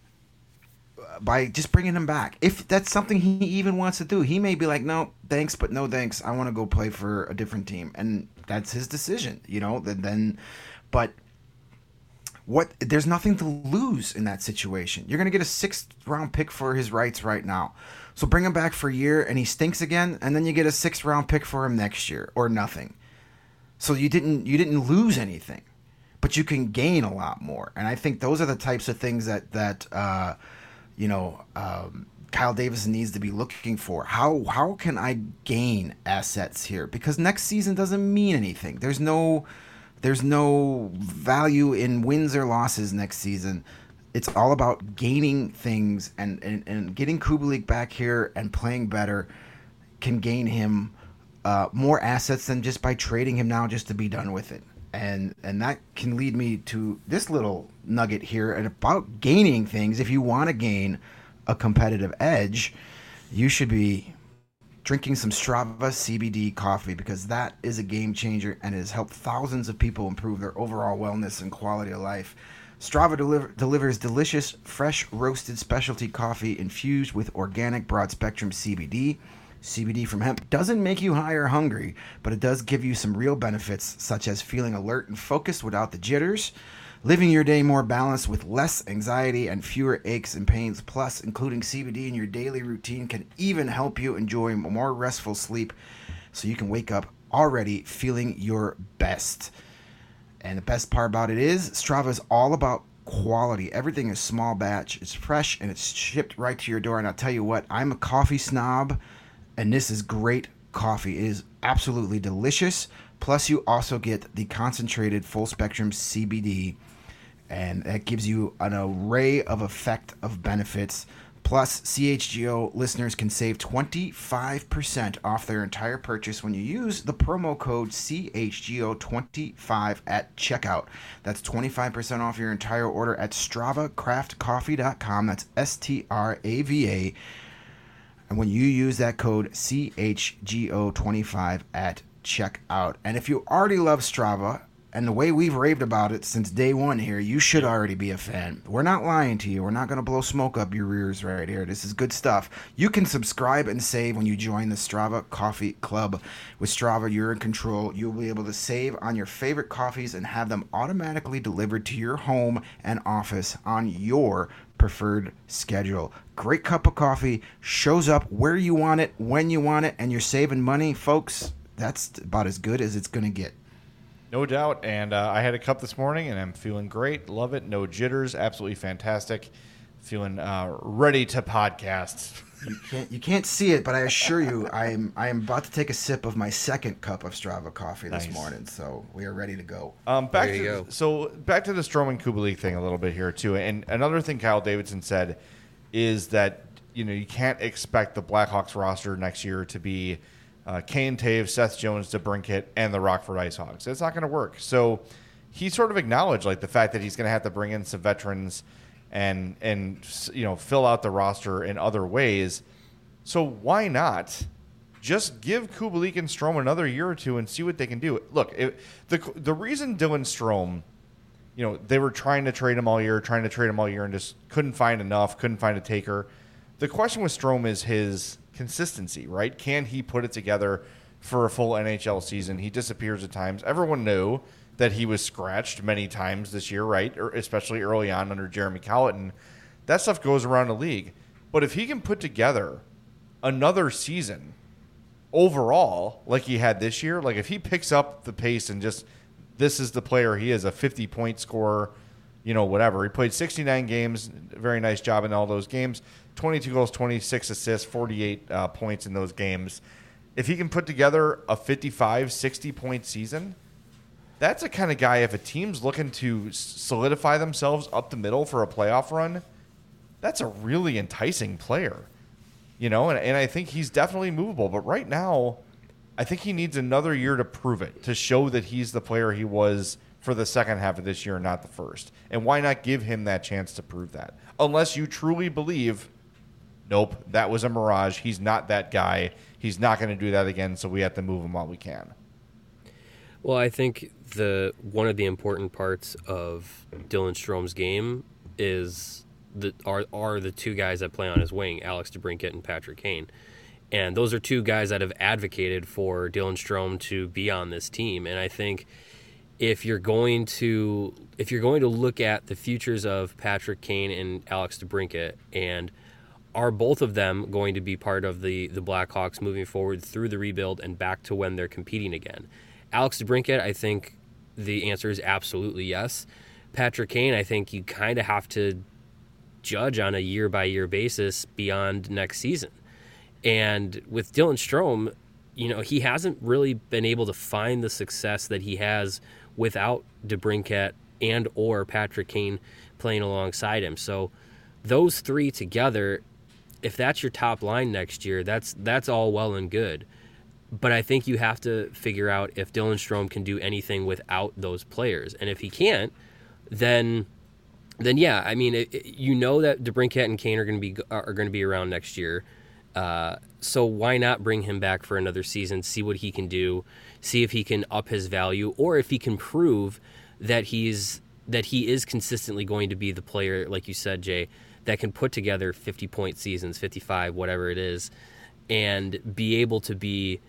by just bringing him back? If that's something he even wants to do, he may be like, no, thanks, but no thanks. I want to go play for a different team. And that's his decision, you know, then, then but what, there's nothing to lose in that situation. You're going to get a sixth round pick for his rights right now. So bring him back for a year and he stinks again. And then you get a sixth round pick for him next year or nothing. So you didn't, you didn't lose anything, but you can gain a lot more. And I think those are the types of things that, that, uh, you know, um, Kyle Davidson needs to be looking for. How how can I gain assets here? Because next season doesn't mean anything. There's no there's no value in wins or losses next season. It's all about gaining things, and, and, and getting Kubalik back here and playing better can gain him uh, more assets than just by trading him now just to be done with it. And and that can lead me to this little nugget here and about gaining things. If you want to gain a competitive edge, you should be drinking some Strava C B D coffee, because that is a game changer and has helped thousands of people improve their overall wellness and quality of life. Strava deliver, delivers delicious, fresh, roasted specialty coffee infused with organic broad-spectrum C B D. C B D from hemp doesn't make you high or hungry, but it does give you some real benefits, such as feeling alert and focused without the jitters, living your day more balanced with less anxiety and fewer aches and pains. Plus, including C B D in your daily routine can even help you enjoy more restful sleep, so you can wake up already feeling your best. And the best part about it is Strava is all about quality. Everything is small batch, it's fresh, and it's shipped right to your door. And I'll tell you what, I'm a coffee snob, and this is great coffee. It is absolutely delicious. Plus, you also get the concentrated full spectrum C B D, and that gives you an array of effect of benefits. Plus, C H G O listeners can save twenty-five percent off their entire purchase when you use the promo code C H G O twenty-five at checkout. That's twenty-five percent off your entire order at strava craft coffee dot com. That's S T R A V A. And when you use that code C H G O twenty-five at checkout. And if you already love Strava, and the way we've raved about it since day one here, you should already be a fan. We're not lying to you. We're not going to blow smoke up your ears right here. This is good stuff. You can subscribe and save when you join the Strava Coffee Club. With Strava, you're in control. You'll be able to save on your favorite coffees and have them automatically delivered to your home and office on your preferred schedule. Great cup of coffee, shows up where you want it, when you want it, and you're saving money. Folks, that's about as good as it's going to get. No doubt. And uh, I had a cup this morning, and I'm feeling great. Love it. No jitters. Absolutely fantastic. Feeling uh, ready to podcast. You can't you can't see it, but I assure you, I am I am about to take a sip of my second cup of Strava coffee this Nice. morning. So we are ready to go. Um, back There you to, go. So back to the Stroman Kubalik thing a little bit here too. And another thing Kyle Davidson said is that you know you can't expect the Blackhawks roster next year to be uh, Kane Taves, Seth Jones, DeBrincat, and the Rockford IceHogs. It's not going to work. So he sort of acknowledged like the fact that he's going to have to bring in some veterans and and you know fill out the roster in other ways. So why not just give Kubalik and Strome another year or two and see what they can do? Look, it, the the reason Dylan Strome, you know, they were trying to trade him all year, trying to trade him all year, and just couldn't find enough, couldn't find a taker. The question with Strome is his consistency, right? Can he put it together for a full N H L season? He disappears at times. Everyone knew that he was scratched many times this year, right? Or especially early on under Jeremy Colleton. That stuff goes around the league. But if he can put together another season overall like he had this year, like if he picks up the pace and just this is the player he is, a fifty-point scorer, you know, whatever. He played sixty-nine games, very nice job in all those games, twenty-two goals, twenty-six assists, forty-eight uh, points in those games. If he can put together a fifty-five, sixty-point season, that's the kind of guy, if a team's looking to solidify themselves up the middle for a playoff run, that's a really enticing player. You know, and, and I think he's definitely movable. But right now, I think he needs another year to prove it, to show that he's the player he was for the second half of this year and not the first. And why not give him that chance to prove that? Unless you truly believe, nope, that was a mirage. He's not that guy. He's not going to do that again, so we have to move him while we can. Well, I think the one of the important parts of Dylan Strome's game is the are are the two guys that play on his wing, Alex DeBrincat and Patrick Kane. And those are two guys that have advocated for Dylan Strome to be on this team. And I think if you're going to if you're going to look at the futures of Patrick Kane and Alex DeBrincat, and are both of them going to be part of the the Blackhawks moving forward through the rebuild and back to when they're competing again? Alex DeBrincat, I think the answer is absolutely yes. Patrick Kane, I think you kind of have to judge on a year-by-year basis beyond next season. And with Dylan Strome, you know, he hasn't really been able to find the success that he has without DeBrincat and or Patrick Kane playing alongside him. So those three together, if that's your top line next year, that's that's all well and good. But I think you have to figure out if Dylan Strome can do anything without those players. And if he can't, then then yeah, I mean, it, it, you know that DeBrincat and Kane are going to be are going to be around next year. Uh, so why not bring him back for another season, see what he can do, see if he can up his value, or if he can prove that he's that he is consistently going to be the player, like you said, Jay, that can put together fifty-point seasons, fifty-five, whatever it is, and be able to be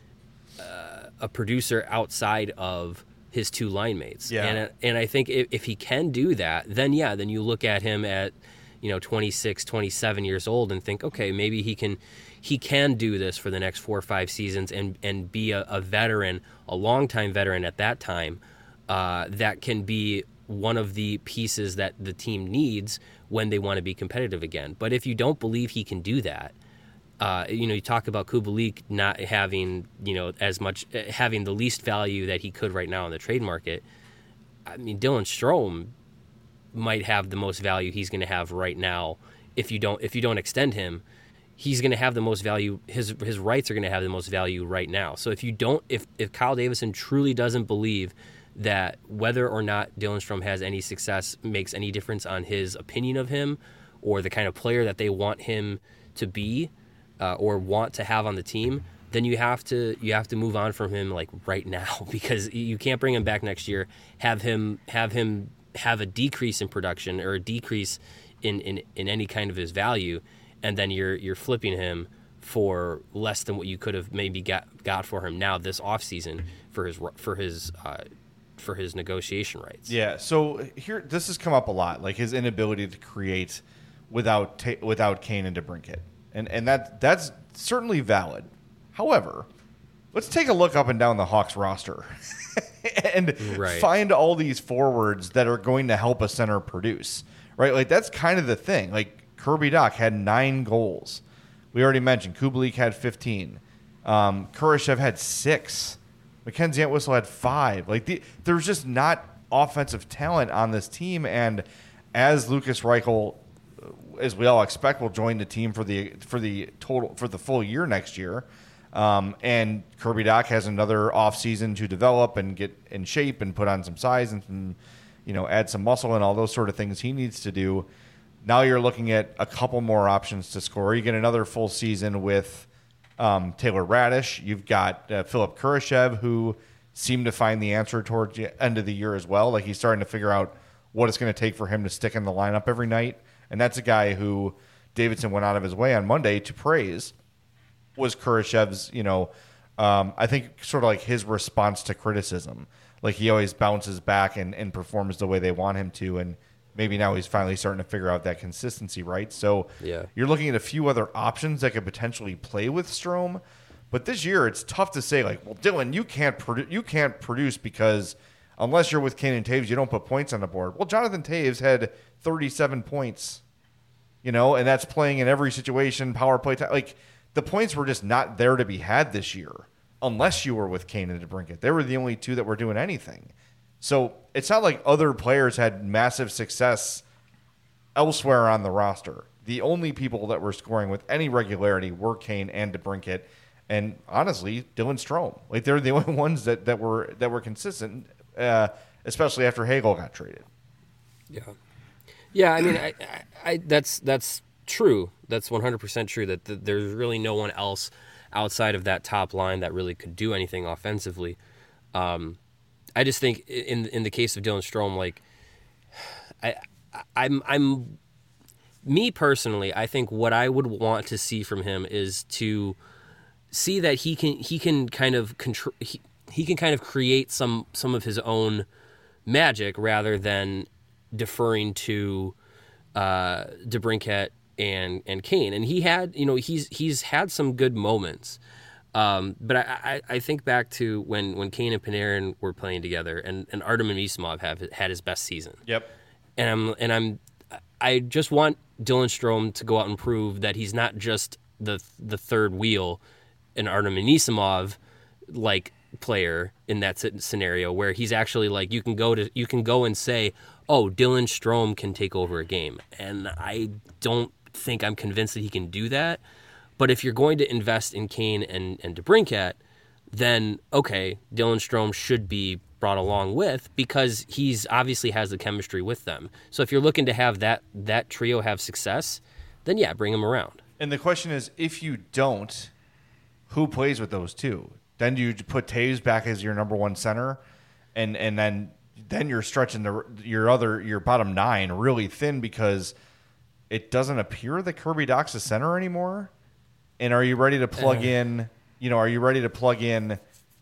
uh, a producer outside of his two line mates. Yeah. And, and I think if, if he can do that, then yeah, then you look at him at, you know, twenty-six, twenty-seven years old and think, okay, maybe he can he can do this for the next four or five seasons and, and be a, a veteran, a longtime veteran at that time, uh, that can be one of the pieces that the team needs when they want to be competitive again. But if you don't believe he can do that, uh, you know, you talk about Kubalik not having, you know, as much, having the least value that he could right now in the trade market. I mean, Dylan Strome might have the most value he's going to have right now. If you don't, if you don't extend him, he's going to have the most value. His his rights are going to have the most value right now. So if you don't, if if Kyle Davidson truly doesn't believe that whether or not Dylan Strome has any success makes any difference on his opinion of him or the kind of player that they want him to be uh, or want to have on the team, then you have to you have to move on from him like right now, because you can't bring him back next year, have him have him have a decrease in production or a decrease in, in, in any kind of his value, and then you're you're flipping him for less than what you could have maybe got got for him now this offseason for his for his uh, for his negotiation rights. Yeah, so here this has come up a lot, like his inability to create without ta- without Kane and DeBrincat, and and that that's certainly valid. However, let's take a look up and down the Hawks roster and Right. find all these forwards that are going to help a center produce, right? Like that's kind of the thing. Like Kirby Dach had nine goals. We already mentioned Kubalik had fifteen. Um, Kurashev had six. Mackenzie Entwistle had five. Like the, there's just not offensive talent on this team. And as Lucas Reichel, as we all expect, will join the team for the for the total for the full year next year. Um, and Kirby Dach has another offseason to develop and get in shape and put on some size and some, you know, add some muscle and all those sort of things he needs to do. Now you're looking at a couple more options to score. You get another full season with um, Taylor Radish. You've got uh, Philip Kurashev, who seemed to find the answer towards the end of the year as well. Like he's starting to figure out what it's going to take for him to stick in the lineup every night. And that's a guy who Davidson went out of his way on Monday to praise. Was Kurashev's, you know, um, I think sort of like his response to criticism. Like he always bounces back and, and performs the way they want him to. And maybe now he's finally starting to figure out that consistency, right? So Yeah. you're looking at a few other options that could potentially play with Strome. But this year it's tough to say, like, well, Dylan, you can't, produ- you can't produce because unless you're with Kane and Taves, you don't put points on the board. Well, Jonathan Taves had thirty-seven points, you know, and that's playing in every situation, power play time. Like, the points were just not there to be had this year unless you were with Kane and DeBrincat. They were the only two that were doing anything. So it's not like other players had massive success elsewhere on the roster. The only people that were scoring with any regularity were Kane and DeBrincat, and honestly, Dylan Strome. Like they're the only ones that, that were that were consistent, uh, especially after Hagel got traded. Yeah, yeah. I mean, I, I, I that's that's true. That's one hundred percent true. That th- there's really no one else outside of that top line that really could do anything offensively. Um, I just think in in the case of Dylan Strome, like I, I'm I'm me personally, I think what I would want to see from him is to see that he can he can kind of control he, he can kind of create some some of his own magic rather than deferring to uh, DeBrincat and and Kane. And he had you know he's he's had some good moments. Um, but I, I, I think back to when, when Kane and Panarin were playing together, and, and Artem Anisimov have had his best season. Yep. And I'm and I'm I just want Dylan Strome to go out and prove that he's not just the the third wheel, an Artem Anisimov like player in that scenario where he's actually like you can go to you can go and say, oh, Dylan Strome can take over a game, and I don't think I'm convinced that he can do that. But if you're going to invest in Kane and, and DeBrincat, then, okay, Dylan Strome should be brought along with because he's obviously has the chemistry with them. So if you're looking to have that that trio have success, then, yeah, bring him around. And the question is, if you don't, who plays with those two? Then do you put Taves back as your number one center, and and then then you're stretching the your other your bottom nine really thin because it doesn't appear that Kirby Dach's a center anymore. And are you ready to plug uh, in, you know, are you ready to plug in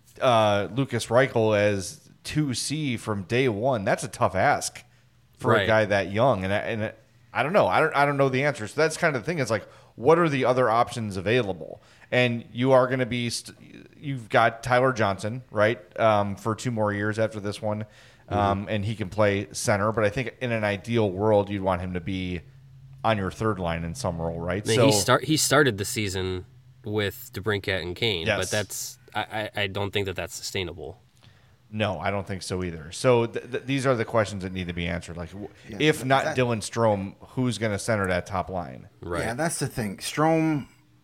uh, Lucas Reichel as two C from day one? That's a tough ask for right. a guy that young. And, I, and I don't know. I don't I don't know the answer. So that's kind of the thing. It's like, what are the other options available? And you are going to be, st- you've got Tyler Johnson, right, um, for two more years after this one. Um, mm-hmm. And he can play center. But I think in an ideal world, you'd want him to be on your third line in some role, right? I mean, so he start he started the season with DeBrincat and Kane, yes. but that's I, I don't think that that's sustainable. No, I don't think so either. So th- th- these are the questions that need to be answered. Like, yeah, if not that, Dylan Strome, who's going to center that top line? Right. Yeah, that's the thing. Strome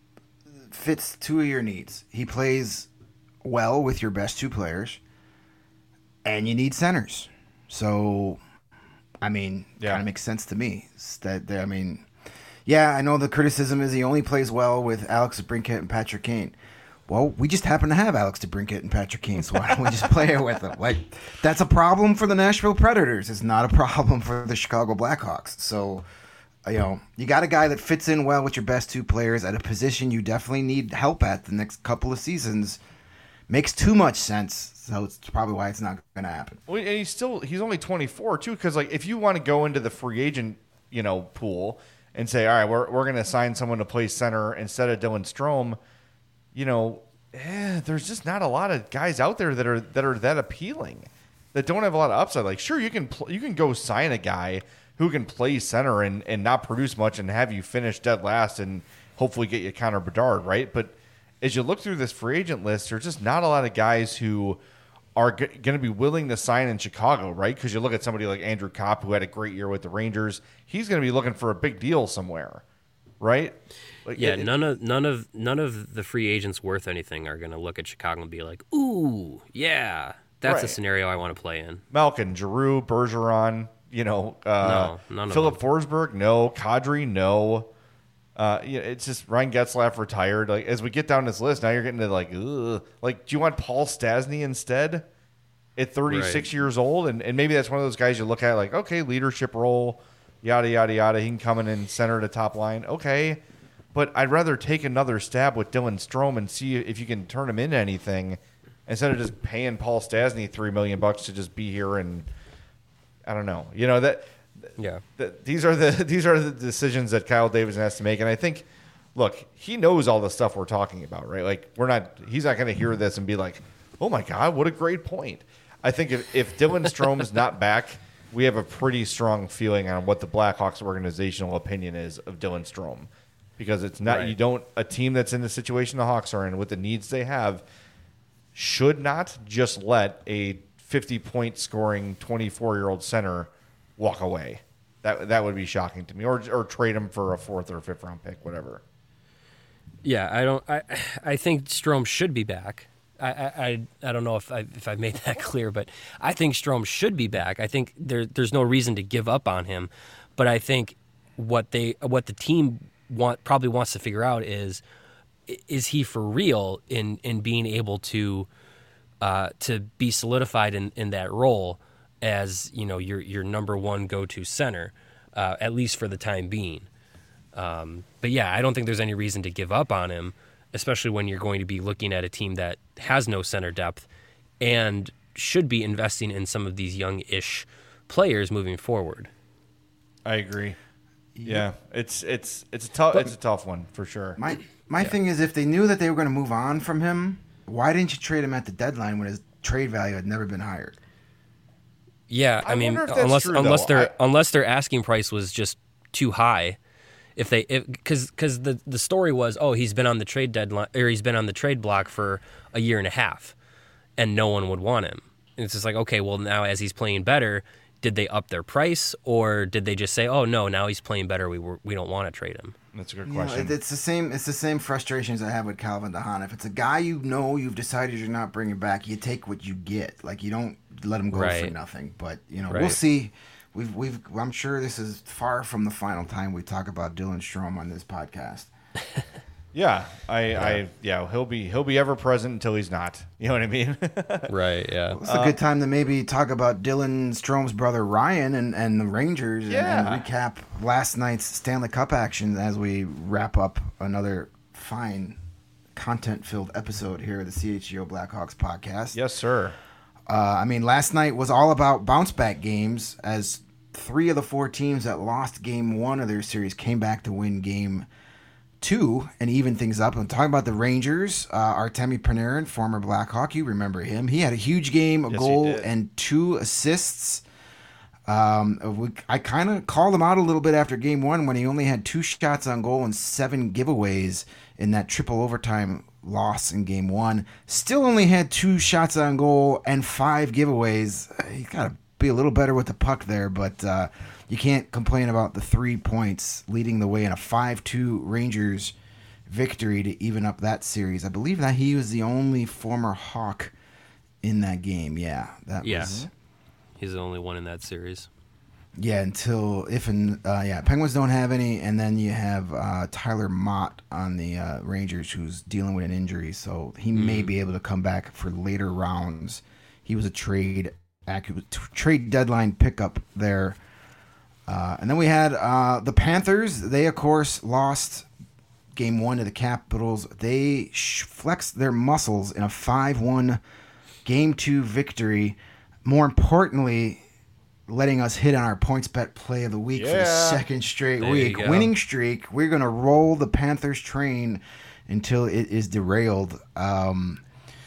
fits two of your needs. He plays well with your best two players, and you need centers. So. I mean, yeah. kind of makes sense to me. That I mean, yeah, I know the criticism is he only plays well with Alex DeBrincat and Patrick Kane. Well, we just happen to have Alex DeBrincat and Patrick Kane, so why don't we just play it with them? Like, that's a problem for the Nashville Predators. It's not a problem for the Chicago Blackhawks. So, you know, you got a guy that fits in well with your best two players at a position you definitely need help at the next couple of seasons. Makes too much sense. So it's probably why it's not going to happen. Well, and he's still he's only twenty-four too, because like if you want to go into the free agent, you know, pool and say, all right, we're we're going to sign someone to play center instead of Dylan Strome, you know, eh, there's just not a lot of guys out there that are that are that appealing, that don't have a lot of upside. Like, sure, you can pl- you can go sign a guy who can play center and, and not produce much and have you finish dead last and hopefully get you Connor Bedard, right? But as you look through this free agent list, there's just not a lot of guys who are g- going to be willing to sign in Chicago, right? Because you look at somebody like Andrew Kopp, who had a great year with the Rangers. He's going to be looking for a big deal somewhere, right? Like, Yeah, it- none of none of none of the free agents worth anything are going to look at Chicago and be like, "Ooh, yeah, that's a Right. scenario I want to play in." Malkin, Giroux, Bergeron, you know, uh, No, none of Philip them. Forsberg, no. Kadri, no. Uh, yeah, it's just Ryan Getzlaff retired. Like, as we get down this list, now you're getting to like, ugh. Like, do you want Paul Stasny instead at thirty-six Right. years old? And and maybe that's one of those guys you look at like, okay, leadership role, yada yada yada. He can come in and center the top line, okay. But I'd rather take another stab with Dylan Strome and see if you can turn him into anything instead of just paying Paul Stasny three million bucks to just be here and I don't know. You know that. Yeah. that these are the these are the decisions that Kyle Davidson has to make, and I think, look, he knows all the stuff we're talking about, right? Like, we're not, he's not going to hear this and be like, "Oh my God, what a great point." I think if if Dylan Strome's not back, we have a pretty strong feeling on what the Blackhawks organizational opinion is of Dylan Strome, because it's not Right. you don't a team that's in the situation the Hawks are in with the needs they have should not just let a fifty point scoring twenty-four year old center walk away. That that would be shocking to me, or or trade him for a fourth or fifth round pick, whatever. Yeah, I don't. I I think Strome should be back. I I, I, I don't know if I if I've made that clear, but I think Strome should be back. I think there there's no reason to give up on him, but I think what they what the team want probably wants to figure out is is he for real in in being able to uh, to be solidified in, in that role as, you know, your your number one go to center, uh, at least for the time being. Um, but yeah, I don't think there's any reason to give up on him, especially when you're going to be looking at a team that has no center depth and should be investing in some of these young-ish players moving forward. I agree. Yeah, it's it's it's a tough it's a tough one for sure. My my thing is, if they knew that they were going to move on from him, why didn't you trade him at the deadline when his trade value had never been higher? Yeah, I, I mean, wonder if that's unless true, unless though. their I- unless their asking price was just too high, if they because because the the story was, oh, he's been on the trade deadline or he's been on the trade block for a year and a half, and no one would want him. And it's just like, okay, well, now as he's playing better, did they up their price, or did they just say, oh no, now he's playing better, we were, we don't want to trade him? That's a good You know, question. it, it's the same. It's the same frustrations I have with Calvin DeHaan. If it's a guy you know you've decided you're not bringing back, you take what you get. Like, you don't let him go for Right. nothing. But you know, we'll Right. see. We've we've. I'm sure this is far from the final time we talk about Dylan Strome on this podcast. yeah, I I yeah he'll be he'll be ever present until he's not. You know what I mean? Right. Yeah. It's a good time to maybe talk about Dylan Strome's brother Ryan and, and the Rangers and- Yeah. and recap last night's Stanley Cup action as we wrap up another fine content-filled episode here of the C H G O Blackhawks podcast. Yes, sir. Uh, I mean, last night was all about bounce-back games as three of the four teams that lost game one of their series came back to win game two and even things up. I'm talking about the Rangers. Uh, Artemi Panarin, former Blackhawk, you remember him. He had a huge game, a Yes, he goal, did. and two assists. Um, we, I kind of called him out a little bit after game one when he only had two shots on goal and seven giveaways in that triple overtime loss in game one. Still only had two shots on goal and five giveaways. He's got to be a little better with the puck there, but uh, you can't complain about the three points leading the way in a five two Rangers victory to even up that series. I believe that he was the only former Hawk in that game. Yeah, that Yeah. was... He's the only one in that series. Yeah, until if and uh, yeah, Penguins don't have any, and then you have uh, Tyler Mott on the uh, Rangers who's dealing with an injury, so he may be able to come back for later rounds. He was a trade accurate trade deadline pickup there, uh, and then we had uh, the Panthers. They of course lost game one to the Capitals. They sh- flexed their muscles in a five one game two victory. More importantly, letting us hit on our points bet play of the week for the Yeah. second straight There you week. go. Winning streak. We're going to roll the Panthers train until it is derailed. Um,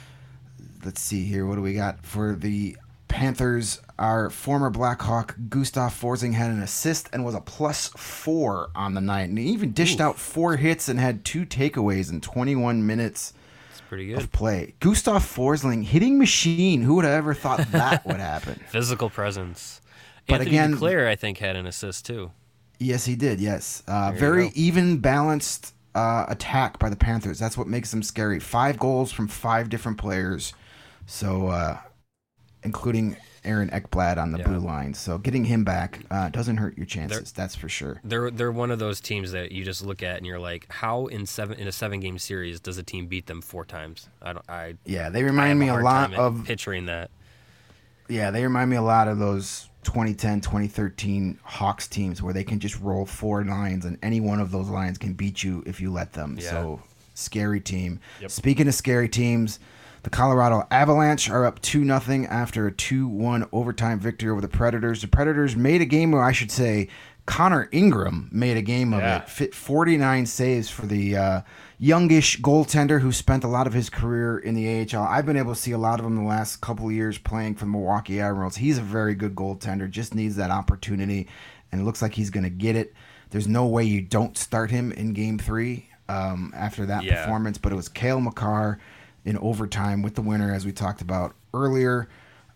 let's see here. What do we got for the Panthers? Our former Blackhawk, Gustav Forsling, had an assist and was a plus four on the night. And he even dished Oof. out four hits and had two takeaways in twenty-one minutes It's pretty of good. play. Gustav Forsling, hitting machine. Who would have ever thought that would happen? Physical presence. But Anthony again- Duclair, I think, had an assist too. Yes, he did. Yes, uh, There you very go. even balanced uh, attack by the Panthers. That's what makes them scary. Five goals from five different players, so uh, including Aaron Ekblad on the Yeah. blue line. So getting him back uh, doesn't hurt your chances. That's for sure. They're they're one of those teams that you just look at and you're like, how in seven in a seven game series does a team beat them four times? I don't. I, Yeah, they I remind have me a hard lot time at of. picturing that. Yeah, they remind me a lot of those twenty ten, twenty thirteen Hawks teams where they can just roll four lines and any one of those lines can beat you if you let them. Yeah. So, scary team. Yep. Speaking of scary teams, the Colorado Avalanche are up two nothing after a two one overtime victory over the Predators. The Predators made a game, or I should say, Connor Ingram made a game of Yeah. it. Fit forty-nine saves for the uh, youngish goaltender who spent a lot of his career in the A H L. I've been able to see a lot of him the last couple of years playing for the Milwaukee Admirals. He's a very good goaltender, just needs that opportunity, and it looks like he's going to get it. There's no way you don't start him in game three um, after that Yeah. performance, but it was Cale Makar in overtime with the winner, as we talked about earlier.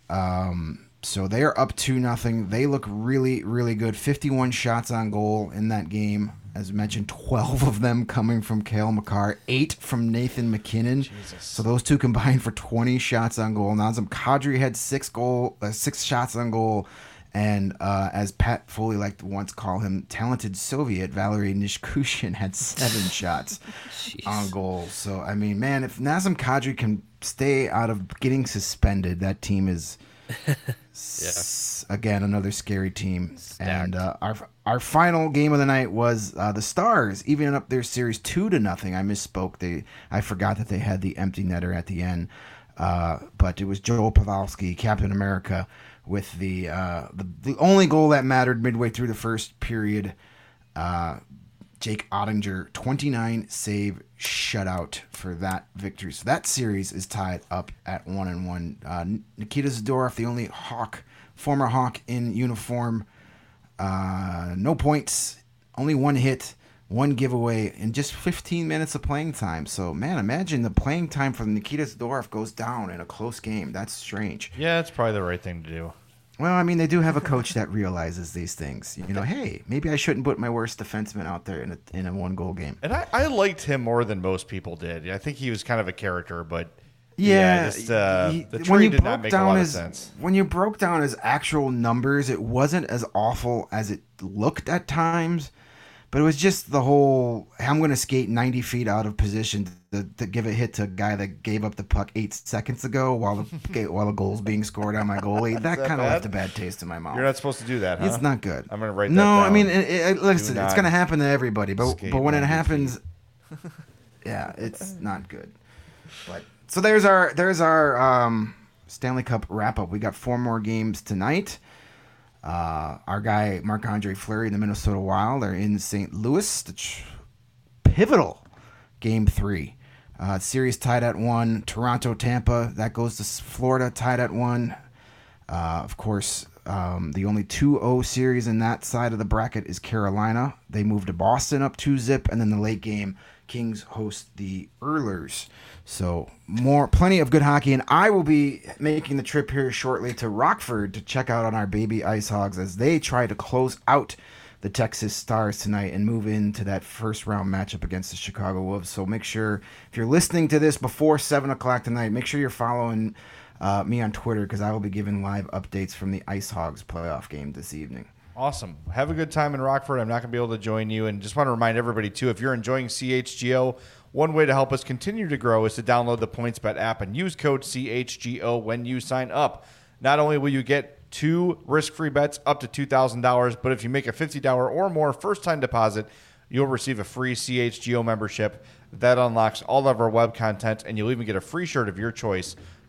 Um, so they are up two nothing. They look really, really good. fifty-one shots on goal in that game. As mentioned, twelve of them coming from Cale Makar, eight from Nathan McKinnon. Jesus. So those two combined for twenty shots on goal. Nazem Kadri had six goal, uh, six shots on goal. And uh, as Pat Foley liked to once call him, talented Soviet Valery Nishkushin had seven shots Jeez. on goal. So, I mean, man, if Nazem Kadri can stay out of getting suspended, that team is, s- again, another scary team. Stacked. And uh, our our final game of the night was uh, the Stars, evening up their series two to nothing. I misspoke. They I forgot that they had the empty netter at the end. Uh, but it was Joel Pavelski, Captain America, with the, uh, the the only goal that mattered midway through the first period. Uh, Jake Ottinger, twenty-nine save shutout for that victory. So that series is tied up at one and one. Uh, Nikita Zadorov, the only Hawk, former Hawk in uniform, uh, no points, only one hit, one giveaway, in just fifteen minutes of playing time. So, man, imagine the playing time for Nikita Zadorov goes down in a close game. That's strange. Yeah, it's probably the right thing to do. Well, I mean, they do have a coach that realizes these things. You know, hey, maybe I shouldn't put my worst defenseman out there in a in a one goal game. And I, I liked him more than most people did. I think he was kind of a character, but Yeah, just, uh, he- the when trade you did not broke make a down lot of his sense. when you broke down his actual numbers, it wasn't as awful as it looked at times. But it was just the whole, I'm going to skate ninety feet out of position to, to give a hit to a guy that gave up the puck eight seconds ago while the while the goal's being scored on my goalie. That, that kind of bad? left a bad taste in my mouth. You're not supposed to do that, huh? It's not good. I'm gonna write that No, down. I mean, it, it, listen, Do it's not going to happen to everybody, but skate but when it ninety happens, yeah, it's not good. But so there's our there's our um, Stanley Cup wrap up. We got four more games tonight. Uh, our guy Marc-Andre Fleury and the Minnesota Wild are in Saint Louis. The tr- pivotal game three. Uh, series tied at one. Toronto, Tampa. That goes to Florida, tied at one. Uh, of course, um, the only two oh series in that side of the bracket is Carolina. They moved to Boston up two zip, and then the late game, Kings host the Oilers. So more, plenty of good hockey, and I will be making the trip here shortly to Rockford to check out on our baby Ice Hogs as they try to close out the Texas Stars tonight and move into that first round matchup against the Chicago Wolves. So make sure, if you're listening to this before seven o'clock tonight, make sure you're following uh, me on Twitter because I will be giving live updates from the Ice Hogs playoff game this evening. Awesome. Have a good time in Rockford. I'm not going to be able to join you. And just want to remind everybody, too, if you're enjoying C H G O, one way to help us continue to grow is to download the PointsBet app and use code C H G O when you sign up. Not only will you get two risk-free bets up to two thousand dollars, but if you make a fifty dollars or more first-time deposit, you'll receive a free C H G O membership. That unlocks all of our web content, and you'll even get a free shirt of your choice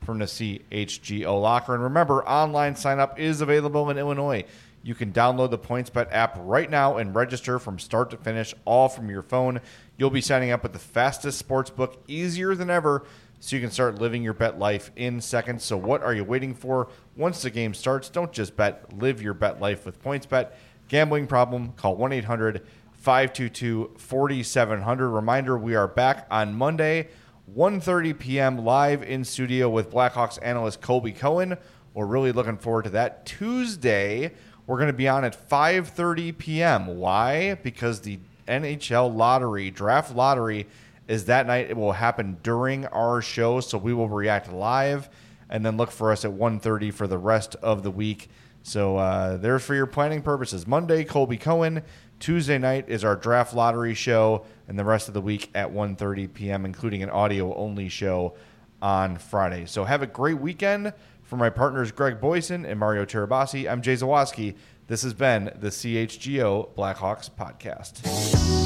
from the C H G O Locker. And remember, online sign-up is available in Illinois. You can download the PointsBet app right now and register from start to finish, all from your phone. You'll be signing up with the fastest sportsbook, easier than ever, so you can start living your bet life in seconds. So what are you waiting for? Once the game starts, don't just bet. Live your bet life with PointsBet. Gambling problem? Call one eight hundred five two two four seven zero zero. Reminder, we are back on Monday, one thirty p.m. live in studio with Blackhawks analyst Colby Cohen. We're really looking forward to that. Tuesday, we're going to be on at five thirty p.m. Why? Because the N H L lottery, draft lottery, is that night. It will happen during our show, so we will react live, and then look for us at one thirty for the rest of the week. So uh, there's for your planning purposes. Monday, Colby Cohen. Tuesday night is our draft lottery show, and the rest of the week at one thirty p.m., including an audio-only show on Friday. So have a great weekend. For my partners Greg Boyson and Mario Terabasi, I'm Jay Zawaski. This has been the C H G O Blackhawks Podcast.